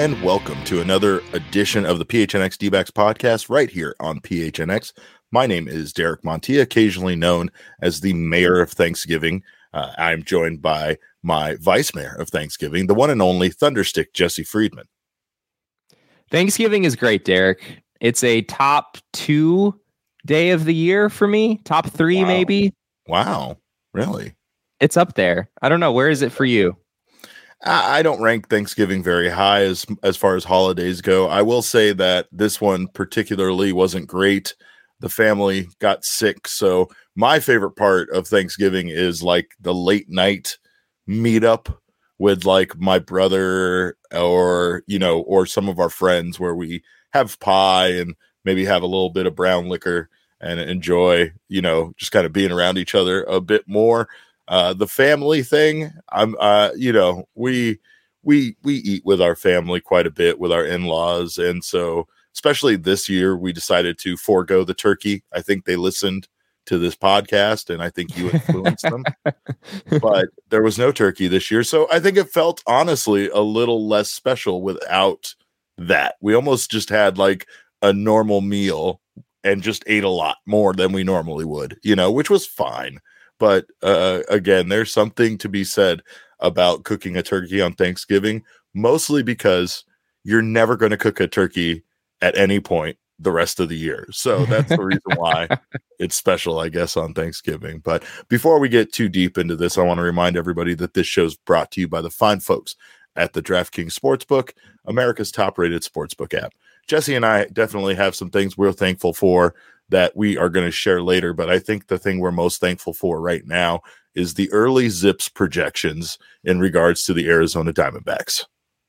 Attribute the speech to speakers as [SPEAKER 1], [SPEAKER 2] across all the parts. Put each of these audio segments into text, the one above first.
[SPEAKER 1] and welcome to another edition of the PHNX D-backs podcast right here on PHNX. My name is Derek Montilla, occasionally known as the Mayor of Thanksgiving. I'm joined by my Vice Mayor of Thanksgiving, the one and only Thunderstick Jesse Friedman.
[SPEAKER 2] Thanksgiving is great, Derek. It's a top 2 day of the year for me. Top 3, maybe.
[SPEAKER 1] Wow. Really?
[SPEAKER 2] It's up there. I don't know. Where is it for you?
[SPEAKER 1] I don't rank Thanksgiving very high as far as holidays go. I will say that this one particularly wasn't great. The family got sick. So my favorite part of Thanksgiving is like the late night meetup with like my brother or some of our friends where we have pie and maybe have a little bit of brown liquor and enjoy, just kind of being around each other a bit more. The family thing, we eat with our family quite a bit with our in-laws. And so, especially this year, we decided to forego the turkey. I think they listened to this podcast and I think you influenced them, but there was no turkey this year. So I think it felt honestly a little less special without that. We almost just had like a normal meal and just ate a lot more than we normally would, which was fine. But again, there's something to be said about cooking a turkey on Thanksgiving, mostly because you're never going to cook a turkey at any point the rest of the year. So that's the reason why it's special, I guess, on Thanksgiving. But before we get too deep into this, I want to remind everybody that this show's brought to you by the fine folks at the DraftKings Sportsbook, America's top-rated sportsbook app. Jesse and I definitely have some things we're thankful for that we are going to share later, but I think the thing we're most thankful for right now is the early Zips projections in regards to the Arizona Diamondbacks.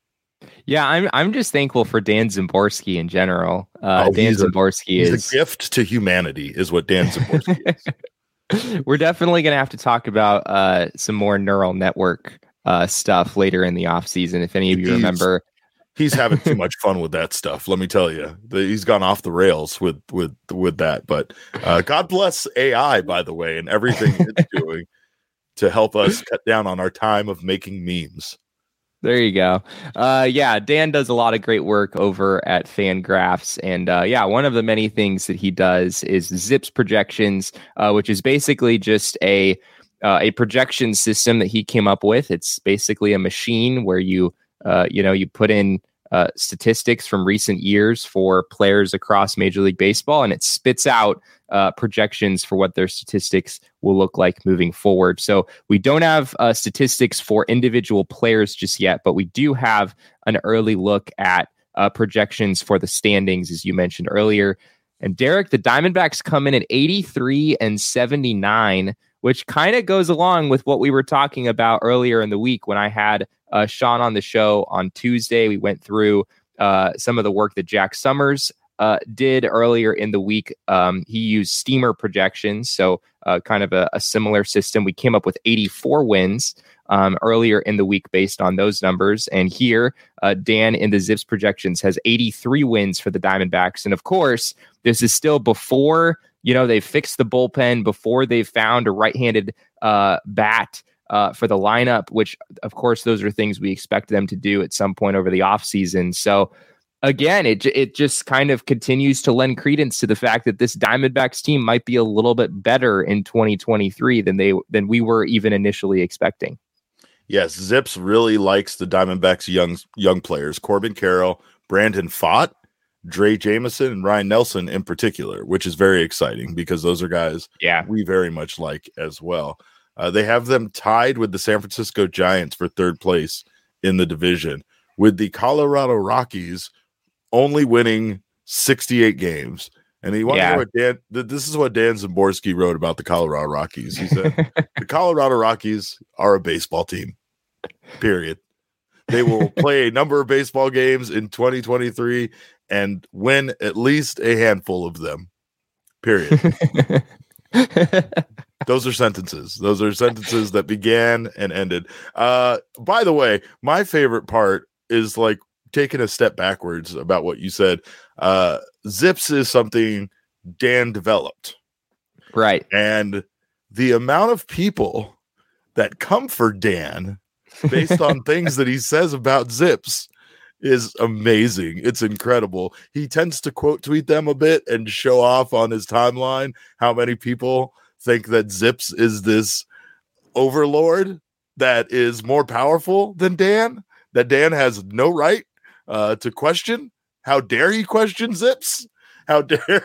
[SPEAKER 2] Yeah, I'm just thankful for Dan Szymborski in general. Dan Szymborski is
[SPEAKER 1] a gift to humanity, is what Dan Szymborski
[SPEAKER 2] is. We're definitely going to have to talk about some more neural network stuff later in the offseason. If any of you remember.
[SPEAKER 1] He's having too much fun with that stuff. Let me tell you, he's gone off the rails with that. But God bless AI, by the way, and everything it's doing to help us cut down on our time of making memes.
[SPEAKER 2] There you go. Yeah, Dan does a lot of great work over at Fangraphs. And one of the many things that he does is Zips projections, which is basically just a projection system that he came up with. It's basically a machine where you put in statistics from recent years for players across Major League Baseball, and it spits out projections for what their statistics will look like moving forward. So we don't have statistics for individual players just yet, but we do have an early look at projections for the standings, as you mentioned earlier. And Derek, the Diamondbacks come in at 83-79, which kind of goes along with what we were talking about earlier in the week when I had Sean on the show on Tuesday. We went through some of the work that Jack Summers did earlier in the week. He used steamer projections, so kind of a similar system. We came up with 84 wins earlier in the week based on those numbers. And here, Dan in the Zips projections has 83 wins for the Diamondbacks. And of course, this is still before they've fixed the bullpen, before they've found a right-handed bat for the lineup, which, of course, those are things we expect them to do at some point over the offseason. So, again, it just kind of continues to lend credence to the fact that this Diamondbacks team might be a little bit better in 2023 than we were even initially expecting.
[SPEAKER 1] Yes, Zips really likes the Diamondbacks' young players, Corbin Carroll, Brandon Pfaadt, Dre Jameson, and Ryan Nelson in particular, which is very exciting because those are guys we very much like as well. They have them tied with the San Francisco Giants for third place in the division, with the Colorado Rockies only winning 68 games. And you want to know what this is what Dan Szymborski wrote about the Colorado Rockies. He said, the Colorado Rockies are a baseball team, period. They will play a number of baseball games in 2023 and win at least a handful of them, period. Those are sentences. Those are sentences that began and ended. By the way, my favorite part is like taking a step backwards about what you said. Zips is something Dan developed.
[SPEAKER 2] Right.
[SPEAKER 1] And the amount of people that come for Dan based on things that he says about Zips is amazing. It's incredible. He tends to quote tweet them a bit and show off on his timeline how many people think that Zips is this overlord that is more powerful than Dan, that Dan has no right to question. How dare he question Zips? How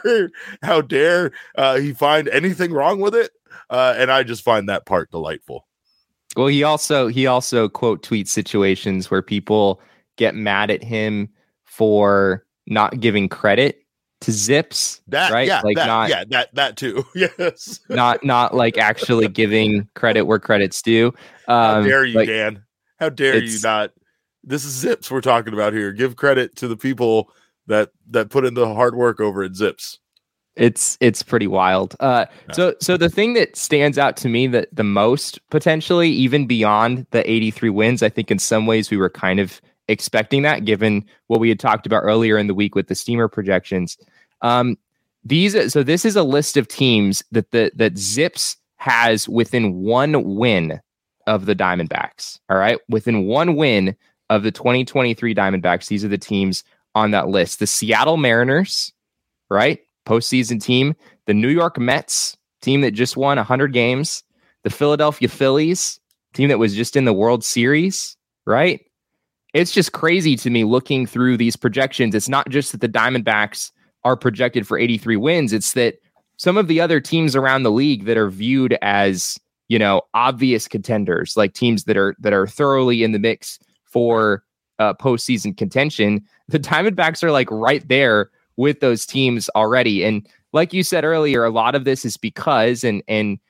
[SPEAKER 1] dare he find anything wrong with it? And I just find that part delightful.
[SPEAKER 2] Well, he also quote tweets situations where people get mad at him for not giving credit to Zips.
[SPEAKER 1] That
[SPEAKER 2] right?
[SPEAKER 1] Yeah,
[SPEAKER 2] like
[SPEAKER 1] that too. Yes.
[SPEAKER 2] not like actually giving credit where credit's due.
[SPEAKER 1] How dare you, Dan? How dare you not? This is Zips we're talking about here. Give credit to the people that put in the hard work over at Zips.
[SPEAKER 2] It's pretty wild. So the thing that stands out to me that the most potentially, even beyond the 83 wins, I think in some ways we were kind of expecting that, given what we had talked about earlier in the week with the Steamer projections. This is a list of teams that Zips has within one win of the Diamondbacks. All right, within one win of the 2023 Diamondbacks, these are the teams on that list: the Seattle Mariners, right, postseason team; the New York Mets, team that just won 100 games; the Philadelphia Phillies, team that was just in the World Series, right? It's just crazy to me looking through these projections. It's not just that the Diamondbacks are projected for 83 wins. It's that some of the other teams around the league that are viewed as, obvious contenders, like teams that are thoroughly in the mix for postseason contention, the Diamondbacks are like right there with those teams already. And like you said earlier, a lot of this is because, and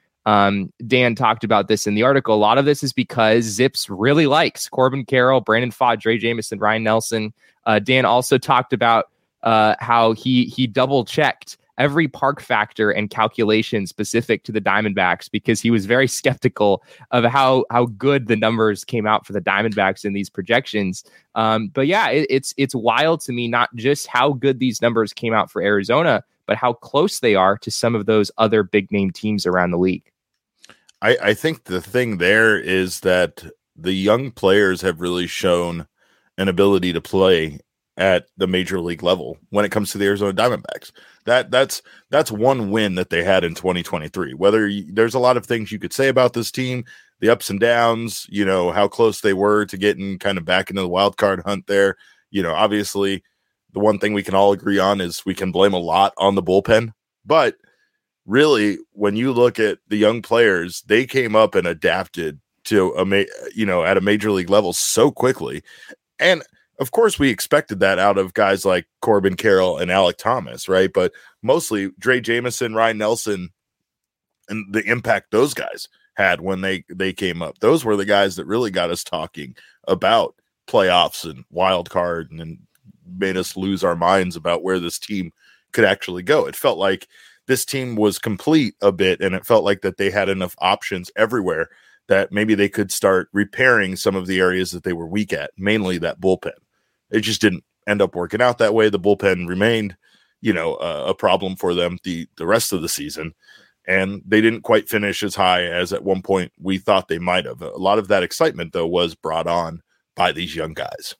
[SPEAKER 2] Dan talked about this in the article, a lot of this is because Zips really likes Corbin Carroll, Brandon Pfaadt, Drey Jameson, Ryan Nelson. Dan also talked about how he double checked every park factor and calculation specific to the Diamondbacks because he was very skeptical of how good the numbers came out for the Diamondbacks in these projections. But yeah, it's wild to me, not just how good these numbers came out for Arizona, but how close they are to some of those other big name teams around the league.
[SPEAKER 1] I think the thing there is that the young players have really shown an ability to play at the major league level when it comes to the Arizona Diamondbacks. That's one win that they had in 2023. There's a lot of things you could say about this team, the ups and downs, how close they were to getting kind of back into the wild card hunt there. Obviously the one thing we can all agree on is we can blame a lot on the bullpen, but really when you look at the young players, they came up and adapted to at a major league level so quickly. And of course, we expected that out of guys like Corbin Carroll and Alek Thomas, right? But mostly Drey Jameson, Ryan Nelson, and the impact those guys had when they came up. Those were the guys that really got us talking about playoffs and wild card and made us lose our minds about where this team could actually go. It felt like this team was complete a bit, and it felt like that they had enough options everywhere that maybe they could start repairing some of the areas that they were weak at, mainly that bullpen. It just didn't end up working out that way. The bullpen remained, a problem for them the rest of the season, and they didn't quite finish as high as at one point we thought they might have. A lot of that excitement, though, was brought on by these young guys.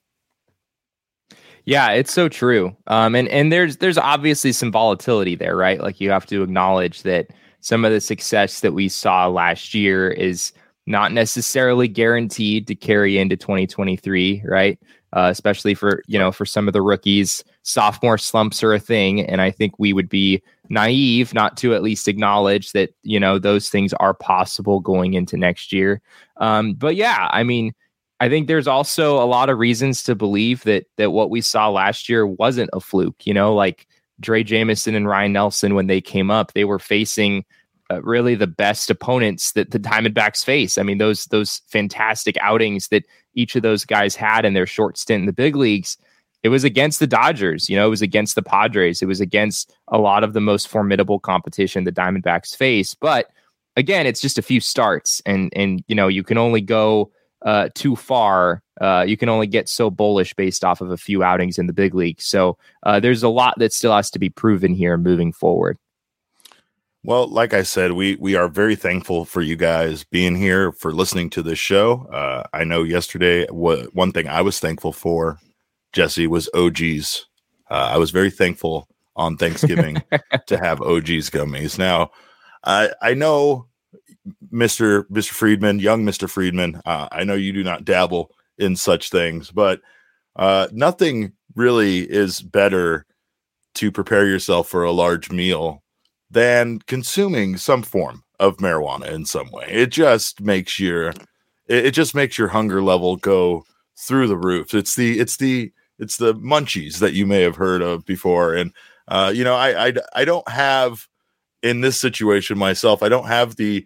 [SPEAKER 2] Yeah, it's so true. And there's obviously some volatility there, right? Like you have to acknowledge that some of the success that we saw last year is not necessarily guaranteed to carry into 2023, right? Especially for some of the rookies, sophomore slumps are a thing. And I think we would be naive not to at least acknowledge that, those things are possible going into next year. But yeah, I mean, I think there's also a lot of reasons to believe that what we saw last year wasn't a fluke, like Drey Jameson and Ryan Nelson, when they came up, they were facing really the best opponents that the Diamondbacks face. I mean, those fantastic outings that each of those guys had in their short stint in the big leagues, it was against the Dodgers, it was against the Padres, it was against a lot of the most formidable competition the Diamondbacks face. But again, it's just a few starts, and you can only go too far. You can only get so bullish based off of a few outings in the big league. So there's a lot that still has to be proven here moving forward.
[SPEAKER 1] Well, like I said, we are very thankful for you guys being here, for listening to this show. I know yesterday, one thing I was thankful for Jesse, was OG's. I was very thankful on Thanksgiving to have OG's gummies. Now, I know Mr. Friedman, young Mr. Friedman, I know you do not dabble in such things, but nothing really is better to prepare yourself for a large meal than consuming some form of marijuana in some way. It just makes your hunger level go through the roof. It's the munchies that you may have heard of before. And I don't have, in this situation myself, I don't have the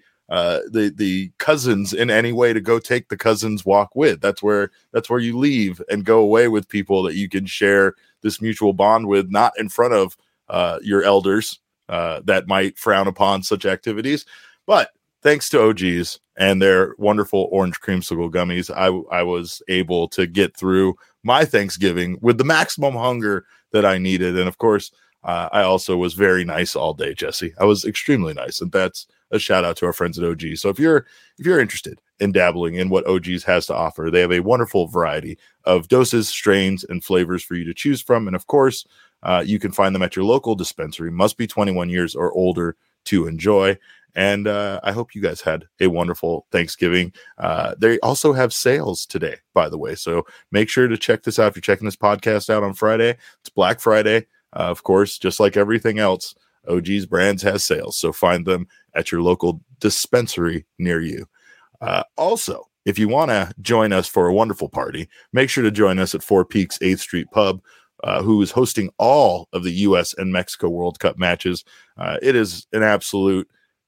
[SPEAKER 1] cousins in any way to go take the cousins walk with. That's where you leave and go away with people that you can share this mutual bond with, not in front of your elders that might frown upon such activities. But thanks to OG's and their wonderful orange creamsicle gummies, I was able to get through my Thanksgiving with the maximum hunger that I needed. And of course, I also was very nice all day, Jesse. I was extremely nice, and that's a shout out to our friends at OG. So if you're interested in dabbling in what OG's has to offer, they have a wonderful variety of doses, strains, and flavors for you to choose from. And of course, you can find them at your local dispensary. Must be 21 years or older to enjoy. And I hope you guys had a wonderful Thanksgiving. They also have sales today, by the way. So make sure to check this out. If you're checking this podcast out on Friday, it's Black Friday. Of course, just like everything else, OG's Brands has sales. So find them at your local dispensary near you. Also, if you want to join us for a wonderful party, make sure to join us at Four Peaks 8th Street Pub, who is hosting all of the U.S. and Mexico World Cup matches. It is an absolute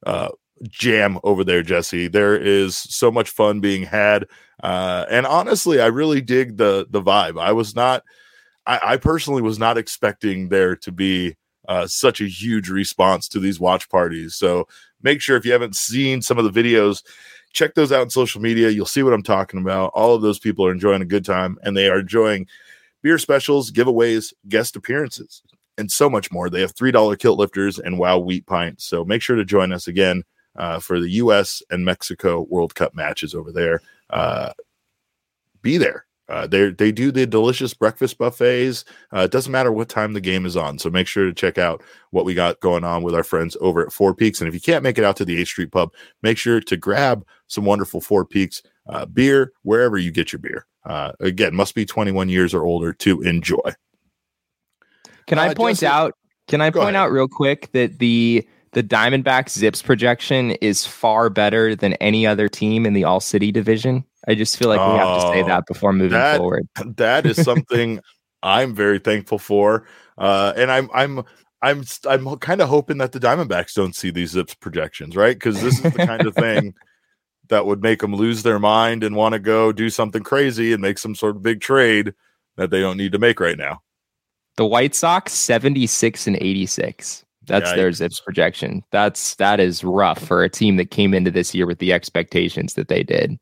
[SPEAKER 1] jam over there, Jesse. There is so much fun being had. And honestly, I really dig the vibe. I personally was not expecting there to be such a huge response to these watch parties. So make sure, if you haven't seen some of the videos, check those out on social media. You'll see what I'm talking about. All of those people are enjoying a good time, and they are enjoying beer specials, giveaways, guest appearances, and so much more. They have $3 kilt lifters and WOW wheat pints. So make sure to join us again for the U.S. and Mexico World Cup matches over there. Be there. They do the delicious breakfast buffets. It doesn't matter what time the game is on. So make sure to check out what we got going on with our friends over at Four Peaks. And if you can't make it out to the 8th Street Pub, make sure to grab some wonderful Four Peaks beer wherever you get your beer. Again, must be 21 years or older to enjoy.
[SPEAKER 2] Can I point out real quick that the Diamondbacks Zips projection is far better than any other team in the All City division? I just feel like we have to say that before moving forward.
[SPEAKER 1] That is something I'm very thankful for. And I'm kind of hoping that the Diamondbacks don't see these Zips projections, right? Because this is the kind of thing that would make them lose their mind and want to go do something crazy and make some sort of big trade that they don't need to make right now.
[SPEAKER 2] The White Sox 76-86. That's their Zips projection. That is rough for a team that came into this year with the expectations that they did.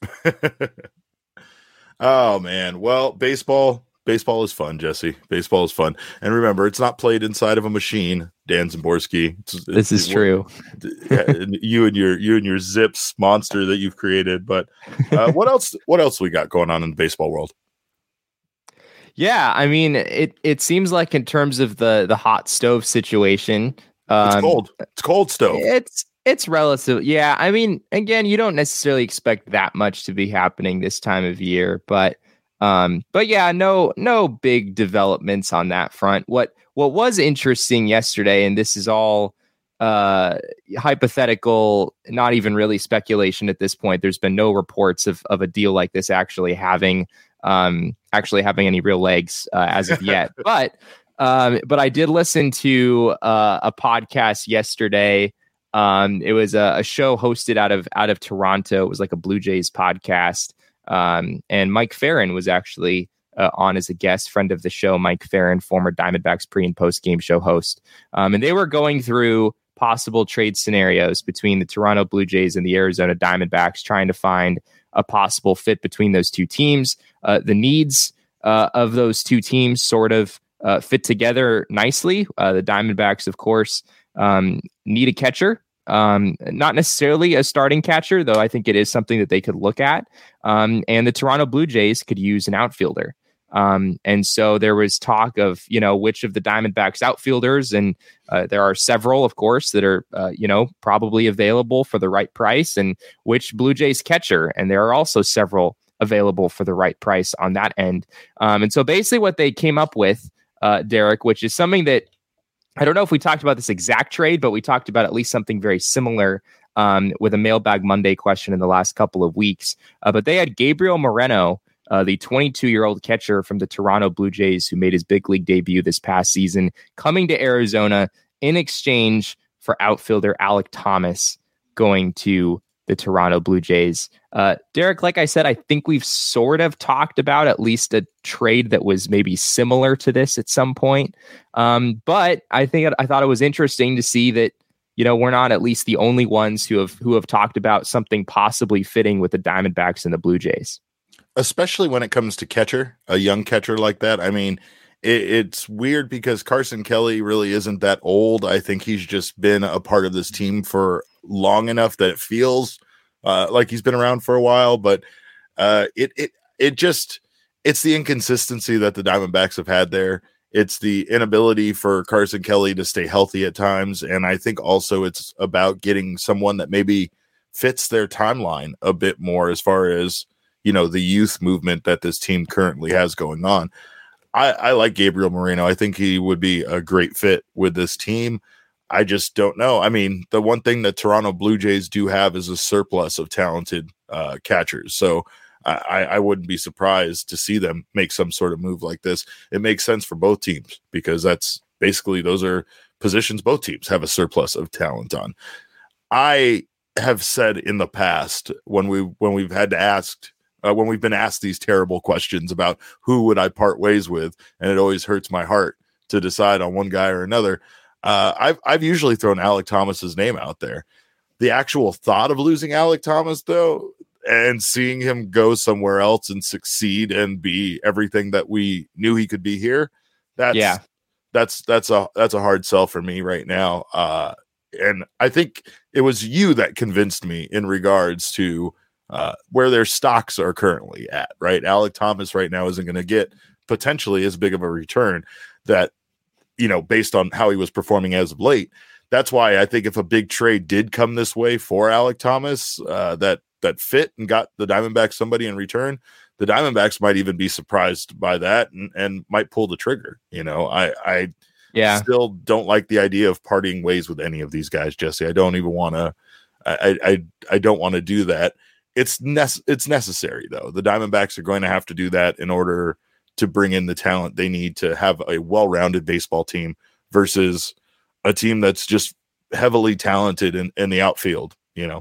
[SPEAKER 1] Oh man. Well, baseball is fun, Jesse. Baseball is fun. And remember, it's not played inside of a machine, Dan Zimborski.
[SPEAKER 2] This is true.
[SPEAKER 1] You and your Zips monster that you've created. But what else we got going on in the baseball world?
[SPEAKER 2] Yeah, I mean, it seems like in terms of the hot stove situation,
[SPEAKER 1] it's cold. It's cold stove.
[SPEAKER 2] It's relative. Yeah, I mean, again, you don't necessarily expect that much to be happening this time of year, but yeah, no big developments on that front. What was interesting yesterday, and this is all hypothetical, not even really speculation at this point. There's been no reports of a deal like this actually having any real legs as of yet. But I did listen to a podcast yesterday. It was a show hosted out of Toronto. It was like a Blue Jays podcast. And Mike Farron was actually on as a guest, friend of the show, Mike Farron, former Diamondbacks pre and post game show host. And they were going through possible trade scenarios between the Toronto Blue Jays and the Arizona Diamondbacks, trying to find a possible fit between those two teams. The needs of those two teams sort of fit together nicely. The Diamondbacks, of course, need a catcher, not necessarily a starting catcher, though I think it is something that they could look at. And the Toronto Blue Jays could use an outfielder. And so there was talk of, which of the Diamondbacks outfielders, and there are several, of course, that are, probably available for the right price, and which Blue Jays catcher. And there are also several available for the right price on that end. And so basically what they came up with, Derek, which is something that I don't know if we talked about this exact trade, but we talked about at least something very similar with a Mailbag Monday question in the last couple of weeks. But they had Gabriel Moreno, the 22-year-old catcher from the Toronto Blue Jays who made his big league debut this past season, coming to Arizona in exchange for outfielder Alek Thomas going to the Toronto Blue Jays. Derek, like I said, I think we've sort of talked about at least a trade that was maybe similar to this at some point. But I thought it was interesting to see that, we're not at least the only ones who have talked about something possibly fitting with the Diamondbacks and the Blue Jays.
[SPEAKER 1] Especially when it comes to catcher, a young catcher like that. I mean, it's weird because Carson Kelly really isn't that old. I think he's just been a part of this team for long enough that it feels like he's been around for a while. But it's the inconsistency that the Diamondbacks have had there. It's the inability for Carson Kelly to stay healthy at times. And I think also it's about getting someone that maybe fits their timeline a bit more as far as, the youth movement that this team currently has going on. I like Gabriel Moreno. I think he would be a great fit with this team. I just don't know. I mean, the one thing that Toronto Blue Jays do have is a surplus of talented catchers. So I wouldn't be surprised to see them make some sort of move like this. It makes sense for both teams because that's basically, those are positions both teams have a surplus of talent on. I have said in the past when we've had to ask, when we've been asked these terrible questions about who would I part ways with, and it always hurts my heart to decide on one guy or another. I've usually thrown Alek Thomas's name out there. The actual thought of losing Alek Thomas, though, and seeing him go somewhere else and succeed and be everything that we knew he could be here, that's a hard sell for me right now. And I think it was you that convinced me in regards to where their stocks are currently at, right? Alek Thomas right now isn't going to get potentially as big of a return that, based on how he was performing as of late. That's why I think if a big trade did come this way for Alek Thomas, that fit and got the Diamondbacks somebody in return, the Diamondbacks might even be surprised by that and might pull the trigger. I still don't like the idea of parting ways with any of these guys, Jesse. I don't even want to. I don't want to do that. It's necessary, though. The Diamondbacks are going to have to do that in order to bring in the talent they need to have a well-rounded baseball team versus a team that's just heavily talented in the outfield,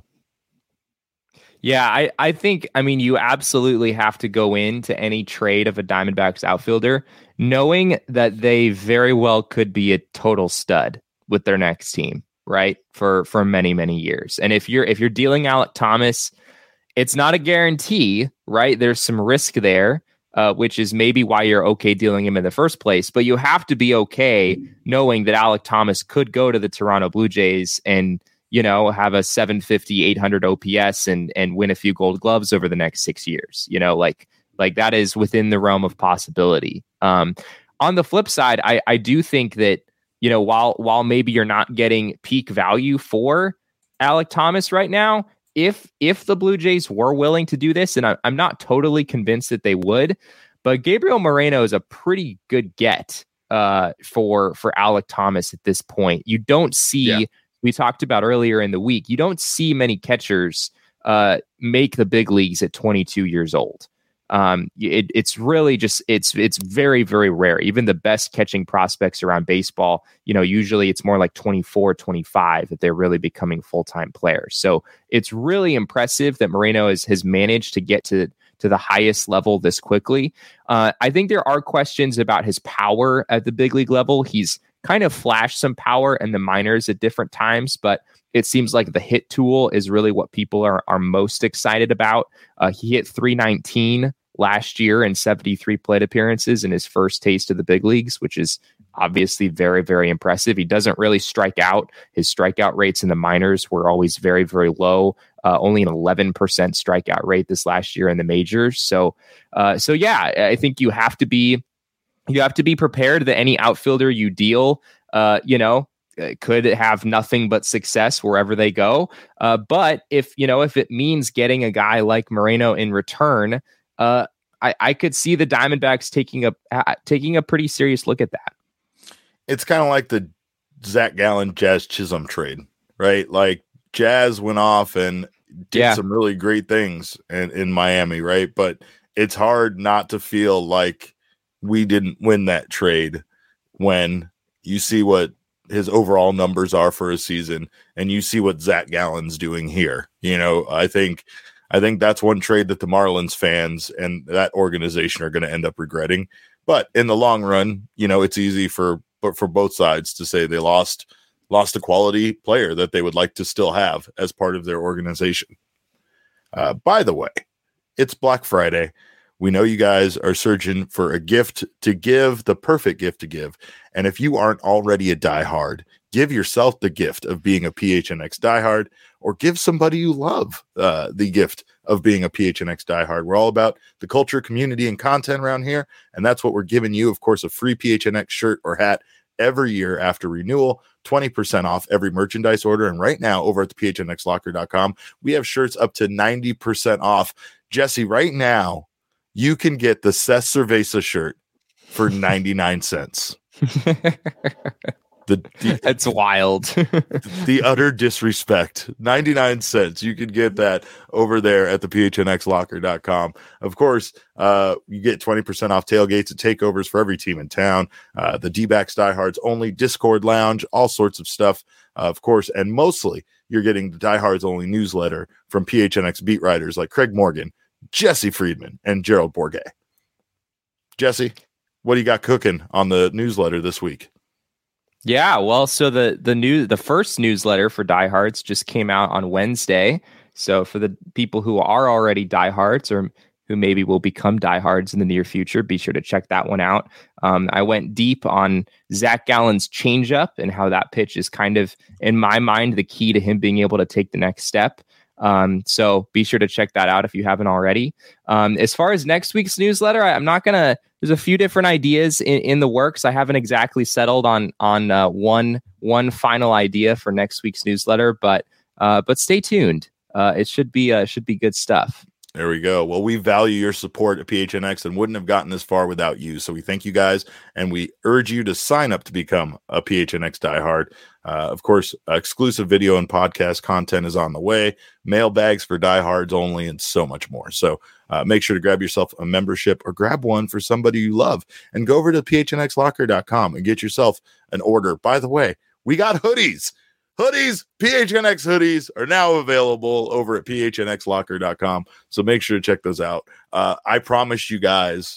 [SPEAKER 2] Yeah, I think, you absolutely have to go into any trade of a Diamondbacks outfielder knowing that they very well could be a total stud with their next team, right? For many, many years. And if you're dealing Alek Thomas, it's not a guarantee, right? There's some risk there, which is maybe why you're okay dealing him in the first place. But you have to be okay knowing that Alek Thomas could go to the Toronto Blue Jays and, have a 750, 800 OPS and win a few Gold Gloves over the next 6 years. Like that is within the realm of possibility. On the flip side, I do think that, while maybe you're not getting peak value for Alek Thomas right now, if the Blue Jays were willing to do this, and I'm not totally convinced that they would, but Gabriel Moreno is a pretty good get for Alek Thomas at this point. You don't see, we talked about earlier in the week, you don't see many catchers make the big leagues at 22 years old. It's really just, it's very, very rare. Even the best catching prospects around baseball, usually it's more like 24, 25 that they're really becoming full-time players. So it's really impressive that Moreno has managed to get to the highest level this quickly. I think there are questions about his power at the big league level. He's kind of flashed some power in the minors at different times, but it seems like the hit tool is really what people are most excited about. He hit 319 last year in 73 plate appearances in his first taste of the big leagues, which is obviously very, very impressive. He doesn't really strike out. His strikeout rates in the minors were always very, very low. Only an 11% strikeout rate this last year in the majors. So yeah, I think you have to be prepared that any outfielder you deal, could have nothing but success wherever they go. But if it means getting a guy like Moreno in return, I could see the Diamondbacks taking a pretty serious look at that.
[SPEAKER 1] It's kind of like the Zach Gallen, Jazz Chisholm trade, right? Like Jazz went off and did some really great things in Miami, right? But it's hard not to feel like we didn't win that trade when you see what his overall numbers are for a season and you see what Zach Gallen's doing here. I think that's one trade that the Marlins fans and that organization are going to end up regretting. But in the long run, it's easy for both sides to say they lost a quality player that they would like to still have as part of their organization. By the way, it's Black Friday. We know you guys are searching for a gift to give, the perfect gift to give. And if you aren't already a diehard, give yourself the gift of being a PHNX diehard, or give somebody you love the gift of being a PHNX diehard. We're all about the culture, community, and content around here. And that's what we're giving you. Of course, a free PHNX shirt or hat every year after renewal, 20% off every merchandise order. And right now over at the phnxlocker.com, we have shirts up to 90% off. Jesse, right now, you can get the Seth Cerveza shirt for 99 cents.
[SPEAKER 2] That's wild.
[SPEAKER 1] The utter disrespect. 99 cents. You can get that over there at the phnxlocker.com. Of course, you get 20% off tailgates and takeovers for every team in town. The D-backs diehards only, Discord lounge, all sorts of stuff, of course. And mostly you're getting the diehards only newsletter from PHNX beat writers like Craig Morgan, Jesse Friedman, and Gerald Bourget. Jesse, what do you got cooking on the newsletter this week?
[SPEAKER 2] Yeah, well, so the first newsletter for diehards just came out on Wednesday. So for the people who are already diehards or who maybe will become diehards in the near future, be sure to check that one out. I went deep on Zach Gallen's changeup and how that pitch is kind of, in my mind, the key to him being able to take the next step. So be sure to check that out if you haven't already. As far as next week's newsletter, there's a few different ideas in the works. I haven't exactly settled on one final idea for next week's newsletter, but stay tuned. It should be good stuff.
[SPEAKER 1] There we go. Well, we value your support at PHNX and wouldn't have gotten this far without you. So we thank you guys, and we urge you to sign up to become a PHNX diehard. Of course, exclusive video and podcast content is on the way, mailbags for diehards only, and so much more. So make sure to grab yourself a membership or grab one for somebody you love and go over to phnxlocker.com and get yourself an order. By the way, we got hoodies. PHNX hoodies are now available over at phnxlocker.com. So make sure to check those out. I promised you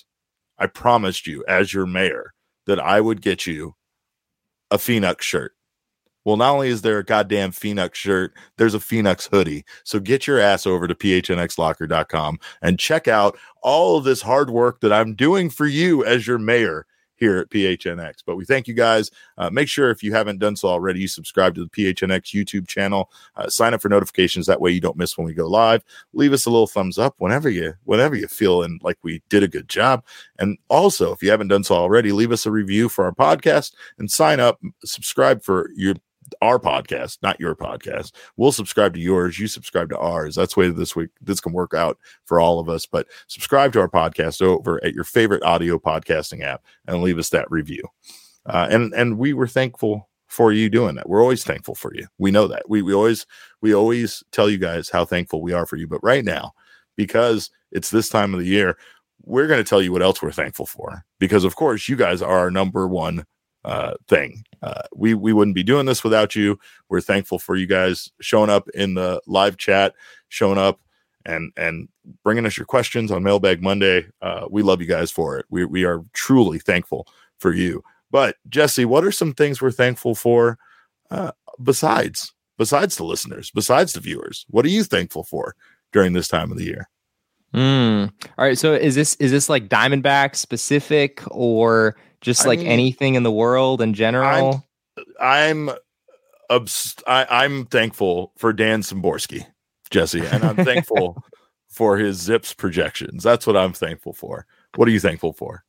[SPEAKER 1] as your mayor that I would get you a Phoenix shirt. Well, not only is there a goddamn Phoenix shirt, there's a Phoenix hoodie. So get your ass over to phnxlocker.com and check out all of this hard work that I'm doing for you as your mayor here at PHNX. But we thank you guys. Make sure if you haven't done so already, you subscribe to the PHNX YouTube channel. Sign up for notifications. That way you don't miss when we go live. Leave us a little thumbs up whenever you feel like we did a good job. And also, if you haven't done so already, leave us a review for our podcast and sign up, subscribe for our podcast, not your podcast. We'll subscribe to yours. You subscribe to ours. That's the way this can work out for all of us. But subscribe to our podcast over at your favorite audio podcasting app and leave us that review. And we were thankful for you doing that. We're always thankful for you. We know that. We always tell you guys how thankful we are for you. But right now, because it's this time of the year, we're going to tell you what else we're thankful for. Because of course, you guys are our number one thing. We wouldn't be doing this without you. We're thankful for you guys showing up in the live chat, showing up and bringing us your questions on Mailbag Monday. We love you guys for it. We are truly thankful for you. But Jesse, what are some things we're thankful for besides the listeners, besides the viewers? What are you thankful for during this time of the year?
[SPEAKER 2] All right. So is this like Diamondback specific or just
[SPEAKER 1] I
[SPEAKER 2] like
[SPEAKER 1] mean,
[SPEAKER 2] anything in the world in
[SPEAKER 1] I'm
[SPEAKER 2] general?
[SPEAKER 1] I'm I'm thankful for Dan Szymborski, Jesse, and I'm thankful for his Zips projections. That's what I'm thankful for. What are you thankful for?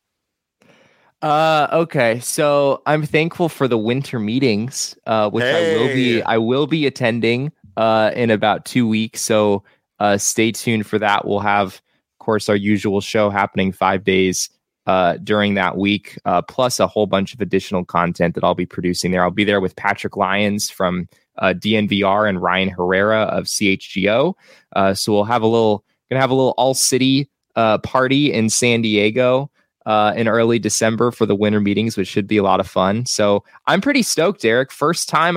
[SPEAKER 2] Okay. So I'm thankful for the winter meetings, which
[SPEAKER 1] Hey,
[SPEAKER 2] I will be attending in about 2 weeks. So stay tuned for that. We'll have, of course, our usual show happening 5 days during that week, plus a whole bunch of additional content that I'll be producing there. I'll be there with Patrick Lyons from DNVR and Ryan Herrera of CHGO. So we'll have gonna have a little all city party in San Diego in early December for the winter meetings, which should be a lot of fun. So I'm pretty stoked, Eric. First time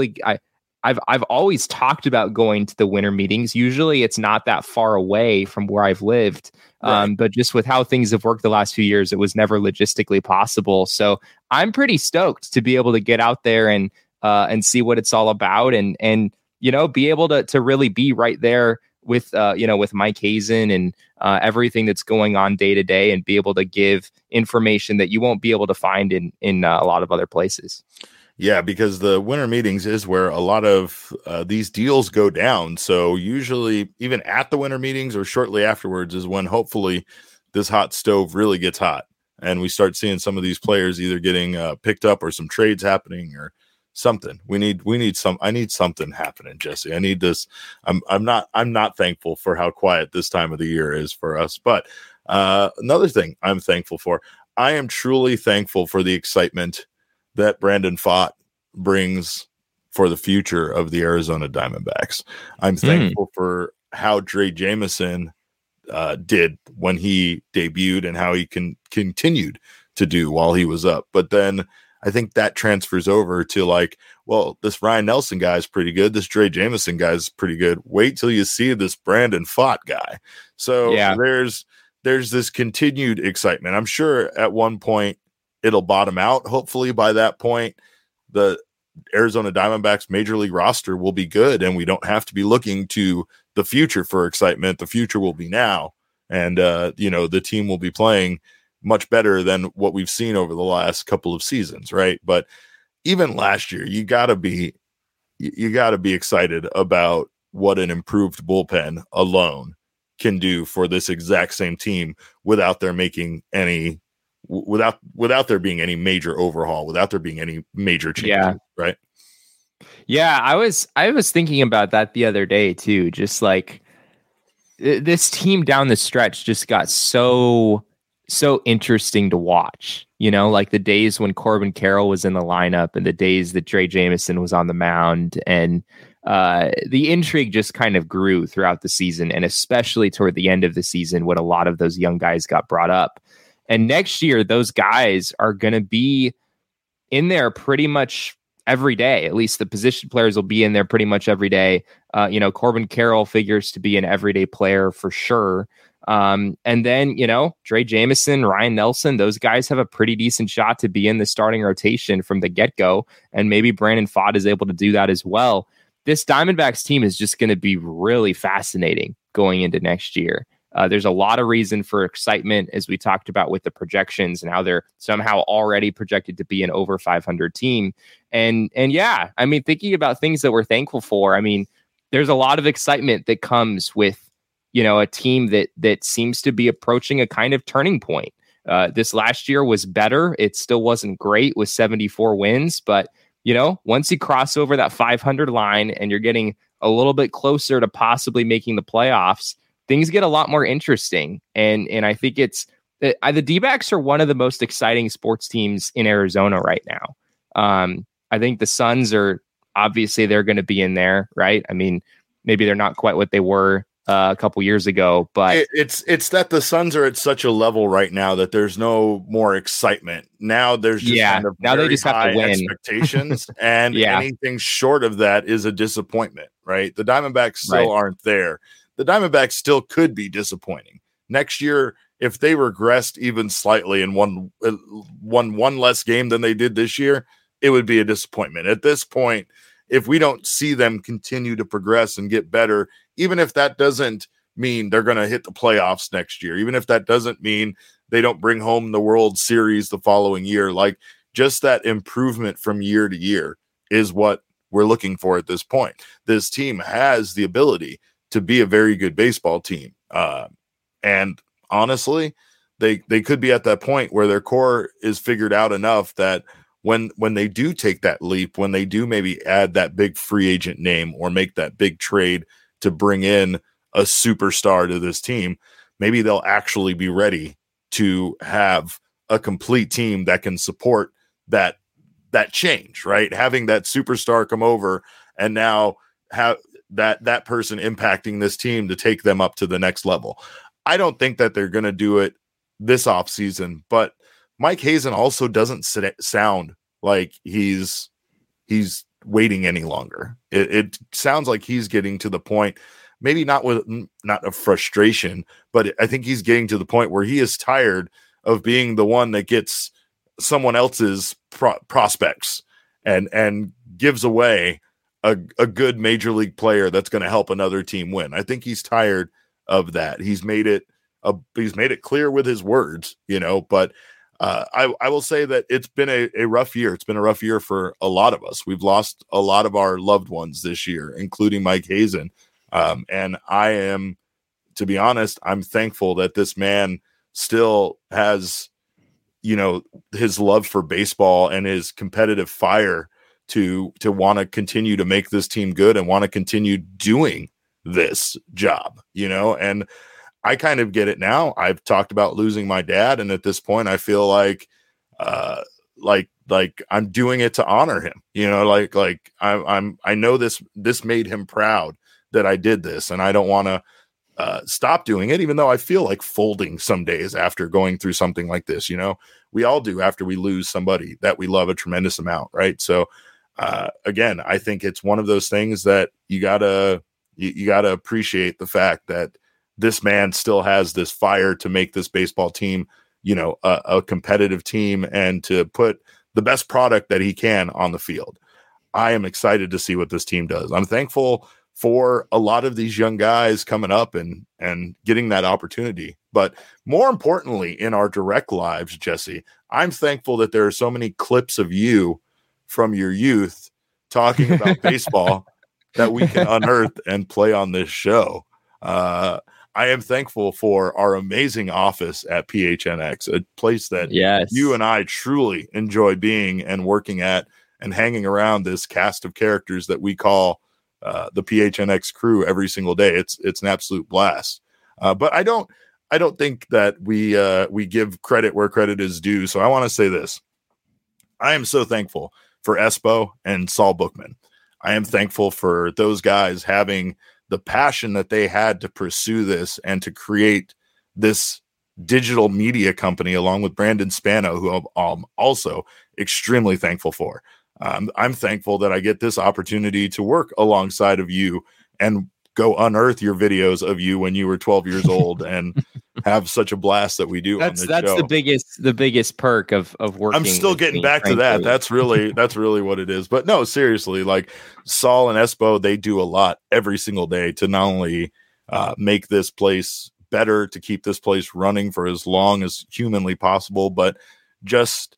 [SPEAKER 2] I've always talked about going to the winter meetings. Usually it's not that far away from where I've lived.
[SPEAKER 1] right.
[SPEAKER 2] But just with how things have worked the last few years, it was never logistically possible. So I'm pretty stoked to be able to get out there and see what it's all about and be able to really be right there with with Mike Hazen and everything that's going on day to day, and be able to give information that you won't be able to find in a lot of other places.
[SPEAKER 1] Yeah, because the winter meetings is where a lot of these deals go down. So usually, even at the winter meetings or shortly afterwards, is when hopefully this hot stove really gets hot, and we start seeing some of these players either getting picked up or some trades happening or something. We need some. I need something happening, Jesse. I need this. I'm not thankful for how quiet this time of the year is for us. But another thing I'm thankful for. I am truly thankful for the excitement that Brandon Pfaadt brings for the future of the Arizona Diamondbacks. I'm thankful for how Drey Jameson did when he debuted and how he continued to do while he was up. But then I think that transfers over to like, well, this Ryan Nelson guy is pretty good. This Drey Jameson guy is pretty good. Wait till you see this Brandon Pfaadt guy. So
[SPEAKER 2] Yeah.
[SPEAKER 1] there's this continued excitement. I'm sure at one point it'll bottom out. Hopefully by that point, the Arizona Diamondbacks major league roster will be good and we don't have to be looking to the future for excitement. The future will be now. And, the team will be playing much better than what we've seen over the last couple of seasons. Right. But even last year, you gotta be excited about what an improved bullpen alone can do for this exact same team without there being any major overhaul, without there being any major changes.
[SPEAKER 2] Yeah.
[SPEAKER 1] Right.
[SPEAKER 2] Yeah. I was thinking about that the other day too. Just like this team down the stretch just got so interesting to watch. Like the days when Corbin Carroll was in the lineup and the days that Drey Jameson was on the mound, and the intrigue just kind of grew throughout the season, and especially toward the end of the season when a lot of those young guys got brought up. And next year, those guys are going to be in there pretty much every day. At least the position players will be in there pretty much every day. Corbin Carroll figures to be an everyday player for sure. And then, Drey Jameson, Ryan Nelson, those guys have a pretty decent shot to be in the starting rotation from the get-go. And maybe Brandon Pfaadt is able to do that as well. This Diamondbacks team is just going to be really fascinating going into next year. There's a lot of reason for excitement, as we talked about with the projections and how they're somehow already projected to be an over 500 team. And yeah, I mean, thinking about things that we're thankful for, I mean, there's a lot of excitement that comes with, a team that seems to be approaching a kind of turning point. This last year was better. It still wasn't great with 74 wins, but once you cross over that 500 line and you're getting a little bit closer to possibly making the playoffs, things get a lot more interesting. And I think the D-backs are one of the most exciting sports teams in Arizona right now. I think the Suns are obviously they're going to be in there, right? I mean, maybe they're not quite what they were a couple years ago, but
[SPEAKER 1] it's that the Suns are at such a level right now that there's no more excitement. Now there's just kind of
[SPEAKER 2] now they just have to win
[SPEAKER 1] expectations, and anything short of that is a disappointment, right? The Diamondbacks still aren't there. The Diamondbacks still could be disappointing next year if they regressed even slightly and won one less game than they did this year. It would be a disappointment at this point. If we don't see them continue to progress and get better, even if that doesn't mean they're going to hit the playoffs next year, even if that doesn't mean they don't bring home the World Series the following year. Like, just that improvement from year to year is what we're looking for at this point. This team has the ability to be a very good baseball team. And honestly, they could be at that point where their core is figured out enough that when they do take that leap, when they do maybe add that big free agent name or make that big trade to bring in a superstar to this team, maybe they'll actually be ready to have a complete team that can support that change, right? Having that superstar come over and now have that person impacting this team to take them up to the next level. I don't think that they're going to do it this offseason, but Mike Hazen also doesn't sound like he's waiting any longer. It sounds like he's getting to the point, maybe not a frustration, but I think he's getting to the point where he is tired of being the one that gets someone else's prospects and gives away a good major league player that's going to help another team win. I think he's tired of that. He's made it clear with his words, but I will say that it's been a rough year. It's been a rough year for a lot of us. We've lost a lot of our loved ones this year, including Mike Hazen. And I am, to be honest, I'm thankful that this man still has, his love for baseball and his competitive fire to want to continue to make this team good and want to continue doing this job, and I kind of get it now. I've talked about losing my dad, and at this point I feel like I'm doing it to honor him, I know this made him proud that I did this, and I don't want to stop doing it, even though I feel like folding some days after going through something like this. We all do after we lose somebody that we love a tremendous amount, right? So again, I think it's one of those things that you gotta appreciate the fact that this man still has this fire to make this baseball team, a competitive team and to put the best product that he can on the field. I am excited to see what this team does. I'm thankful for a lot of these young guys coming up and getting that opportunity. But more importantly, in our direct lives, Jesse, I'm thankful that there are so many clips of you from your youth talking about baseball that we can unearth and play on this show. I am thankful for our amazing office at PHNX, a place that you and I truly enjoy being and working at and hanging around this cast of characters that we call the PHNX crew every single day. It's an absolute blast. But I don't think that we give credit where credit is due. So I want to say this. I am so thankful for Espo and Saul Bookman. I am thankful for those guys having the passion that they had to pursue this and to create this digital media company along with Brandon Spano, who I'm also extremely thankful for. I'm thankful that I get this opportunity to work alongside of you and go unearth your videos of you when you were 12 years old and have such a blast that we do.
[SPEAKER 2] That's
[SPEAKER 1] show.
[SPEAKER 2] the biggest perk of working.
[SPEAKER 1] I'm still getting back to that. That's really what it is. But no, seriously, like Saul and Espo, they do a lot every single day to not only make this place better, to keep this place running for as long as humanly possible, but just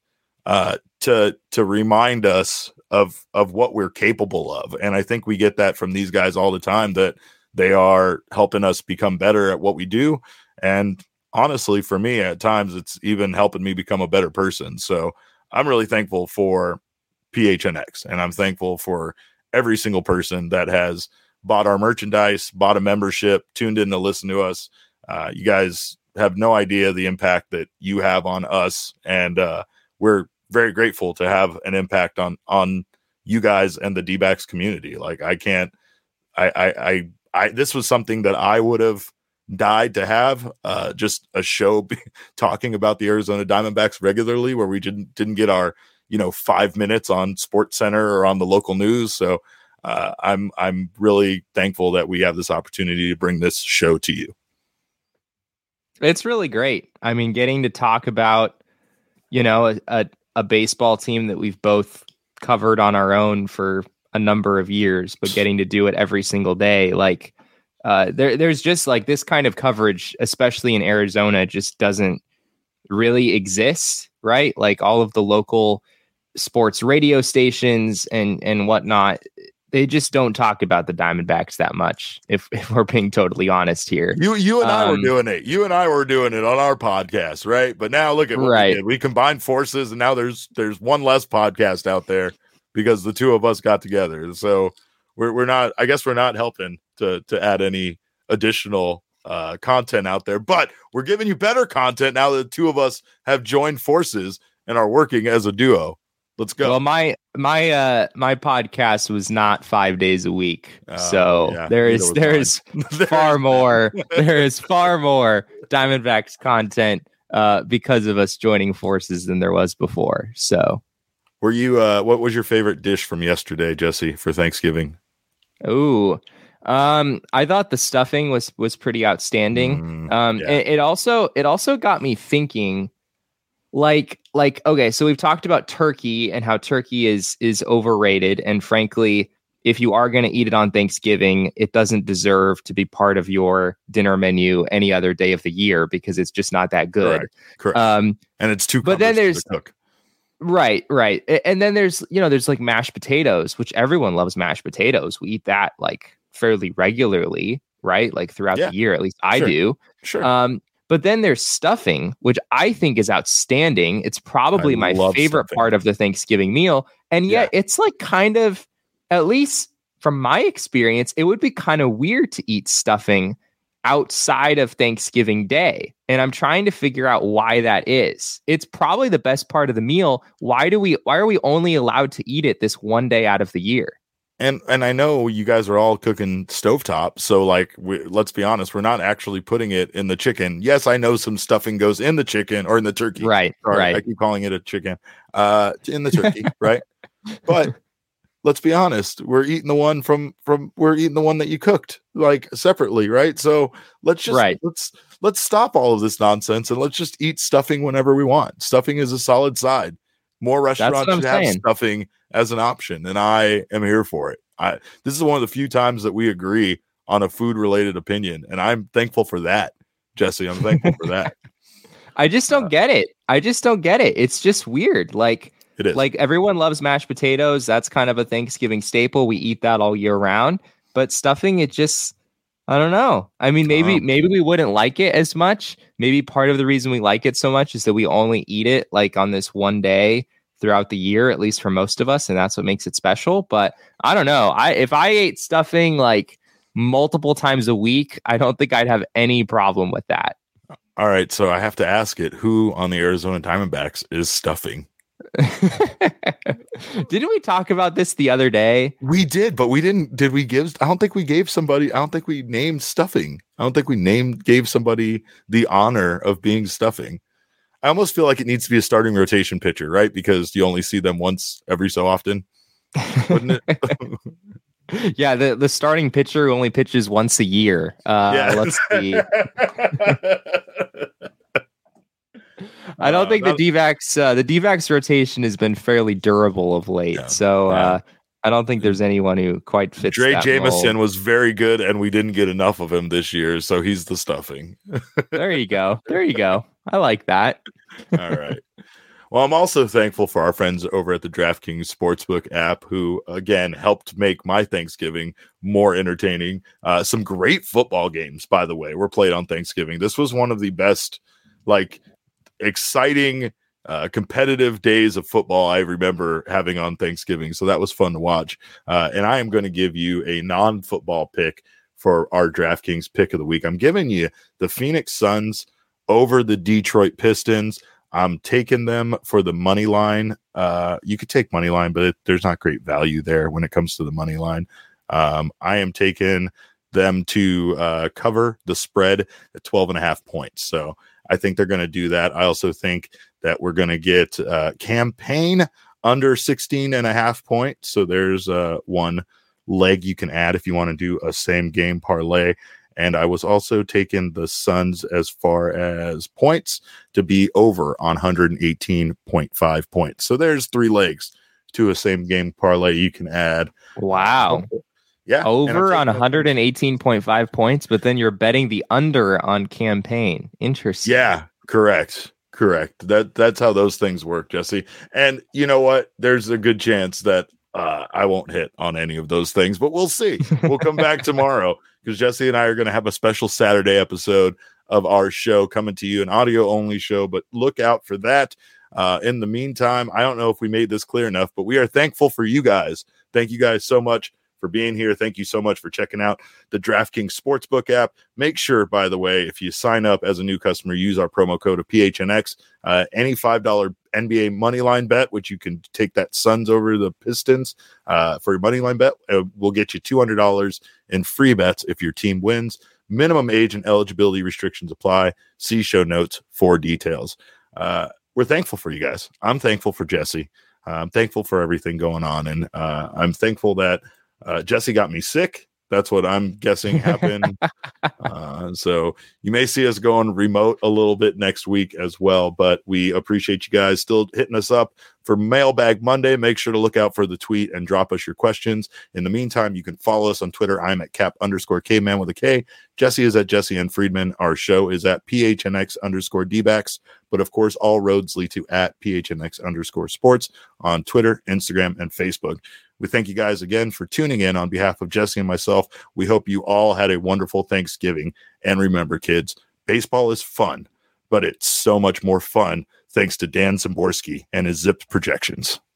[SPEAKER 1] to remind us of what we're capable of. And I think we get that from these guys all the time, that they are helping us become better at what we do. And honestly, for me, at times, it's even helping me become a better person. So I'm really thankful for PHNX, and I'm thankful for every single person that has bought our merchandise, bought a membership, tuned in to listen to us. You guys have no idea the impact that you have on us. And we're very grateful to have an impact on you guys and the D-backs community. Like this was something that I would have died to have, just a show talking about the Arizona Diamondbacks regularly, where we didn't get our 5 minutes on Sports Center or on the local news. So I'm really thankful that we have this opportunity to bring this show to you.
[SPEAKER 2] It's really great. I mean, getting to talk about a baseball team that we've both covered on our own for a number of years, but getting to do it every single day, like there's just like this kind of coverage, especially in Arizona, just doesn't really exist, right? Like all of the local sports radio stations and whatnot, they just don't talk about the Diamondbacks that much. If we're being totally honest here,
[SPEAKER 1] you and I were doing it. You and I were doing it on our podcast, right? But now look at what we did. We combined forces, and now there's one less podcast out there because the two of us got together. So we're not. I guess we're not helping to add any additional content out there, but we're giving you better content now that the two of us have joined forces and are working as a duo. Let's go.
[SPEAKER 2] Well, my podcast was not 5 days a week, so yeah, there is far more Diamondbacks content because of us joining forces than there was before. So,
[SPEAKER 1] were you? What was your favorite dish from yesterday, Jesse, for Thanksgiving?
[SPEAKER 2] Ooh, I thought the stuffing was pretty outstanding. Yeah. It also got me thinking. Like, okay, so we've talked about turkey and how turkey is overrated. And frankly, if you are going to eat it on Thanksgiving, it doesn't deserve to be part of your dinner menu any other day of the year because it's just not that good.
[SPEAKER 1] Correct. And it's too.
[SPEAKER 2] But then there's
[SPEAKER 1] to cook.
[SPEAKER 2] Right. And then there's like mashed potatoes, which everyone loves mashed potatoes. We eat that like fairly regularly, right? Like throughout the year, at least I do.
[SPEAKER 1] Sure.
[SPEAKER 2] But then there's stuffing, which I think is outstanding. It's probably my favorite part of the Thanksgiving meal. And yet it's like kind of, at least from my experience, it would be kind of weird to eat stuffing outside of Thanksgiving Day. And I'm trying to figure out why that is. It's probably the best part of the meal. Why are we only allowed to eat it this one day out of the year?
[SPEAKER 1] And I know you guys are all cooking stovetop, so like let's be honest, we're not actually putting it in the chicken. Yes, I know some stuffing goes in the chicken or in the turkey.
[SPEAKER 2] Right.
[SPEAKER 1] I keep calling it a chicken. In the turkey, right? But let's be honest, we're eating the one that you cooked like separately, right? So let's stop all of this nonsense and let's just eat stuffing whenever we want. Stuffing is a solid side. More restaurants should have stuffing as an option, and I am here for it. This is one of the few times that we agree on a food-related opinion, and I'm thankful for that, Jesse. I'm thankful for that.
[SPEAKER 2] I just don't get it. It's just weird. Like,
[SPEAKER 1] it is.
[SPEAKER 2] Like everyone loves mashed potatoes. That's kind of a Thanksgiving staple. We eat that all year round. But stuffing, it just, I don't know. I mean, maybe we wouldn't like it as much. Maybe part of the reason we like it so much is that we only eat it like on this one day throughout the year, at least for most of us, and that's what makes it special. But I don't know. If I ate stuffing like multiple times a week, I don't think I'd have any problem with that.
[SPEAKER 1] All right, so I have to ask it: who on the Arizona Diamondbacks is stuffing?
[SPEAKER 2] Didn't we talk about this the other day?
[SPEAKER 1] We did, but we didn't. Did we give? I don't think we gave somebody. I don't think we named stuffing. I don't think we gave somebody the honor of being stuffing. I almost feel like it needs to be a starting rotation pitcher, right? Because you only see them once every so often, wouldn't it?
[SPEAKER 2] Yeah, the starting pitcher only pitches once a year. Let's see. I don't think the D-backs rotation has been fairly durable of late. I don't think there's anyone who quite fits.
[SPEAKER 1] Dre Jameson was very good, and we didn't get enough of him this year, so he's the stuffing.
[SPEAKER 2] There you go. I like that.
[SPEAKER 1] All right. Well, I'm also thankful for our friends over at the DraftKings Sportsbook app who, again, helped make my Thanksgiving more entertaining. Some great football games, by the way, were played on Thanksgiving. This was one of the best, exciting, competitive days of football I remember having on Thanksgiving. So that was fun to watch. And I am going to give you a non-football pick for our DraftKings pick of the week. I'm giving you the Phoenix Suns over the Detroit Pistons. I'm taking them for the money line. You could take money line, but there's not great value there when it comes to the money line. I am taking them to cover the spread at 12.5 points. So I think they're going to do that. I also think that we're going to get campaign under 16.5 points. So there's one leg you can add if you want to do a same game parlay. And I was also taking the Suns as far as points to be over on 118.5 points. So there's 3 legs to a same game parlay you can add.
[SPEAKER 2] Wow.
[SPEAKER 1] Yeah.
[SPEAKER 2] Over on 118.5 points, but then you're betting the under on campaign. Interesting.
[SPEAKER 1] Yeah, correct. That's how those things work, Jesse. And you know what? There's a good chance that I won't hit on any of those things, but we'll see. We'll come back tomorrow because Jesse and I are going to have a special Saturday episode of our show coming to you, an audio only show, but look out for that. In the meantime, I don't know if we made this clear enough, but we are thankful for you guys. Thank you guys so much for being here. Thank you so much for checking out the DraftKings Sportsbook app. Make sure, by the way, if you sign up as a new customer, use our promo code of PHNX. Any $5 NBA money line bet, which you can take that Suns over the Pistons for your money line bet, will get you $200 in free bets if your team wins. Minimum age and eligibility restrictions apply. See show notes for details. We're thankful for you guys. I'm thankful for Jesse. I'm thankful for everything going on. And I'm thankful that Jesse got me sick. That's what I'm guessing happened. So you may see us going remote a little bit next week as well, but we appreciate you guys still hitting us up for Mailbag Monday. Make sure to look out for the tweet and drop us your questions. In the meantime, you can follow us on Twitter. I'm at cap_Kman with a K. Jesse is at Jesse N. Friedman. Our show is at PHNX_DBacks. But of course, all roads lead to at PHNX_sports on Twitter, Instagram, and Facebook. We thank you guys again for tuning in on behalf of Jesse and myself. We hope you all had a wonderful Thanksgiving. And remember, kids, baseball is fun, but it's so much more fun thanks to Dan Szymborski and his zipped projections.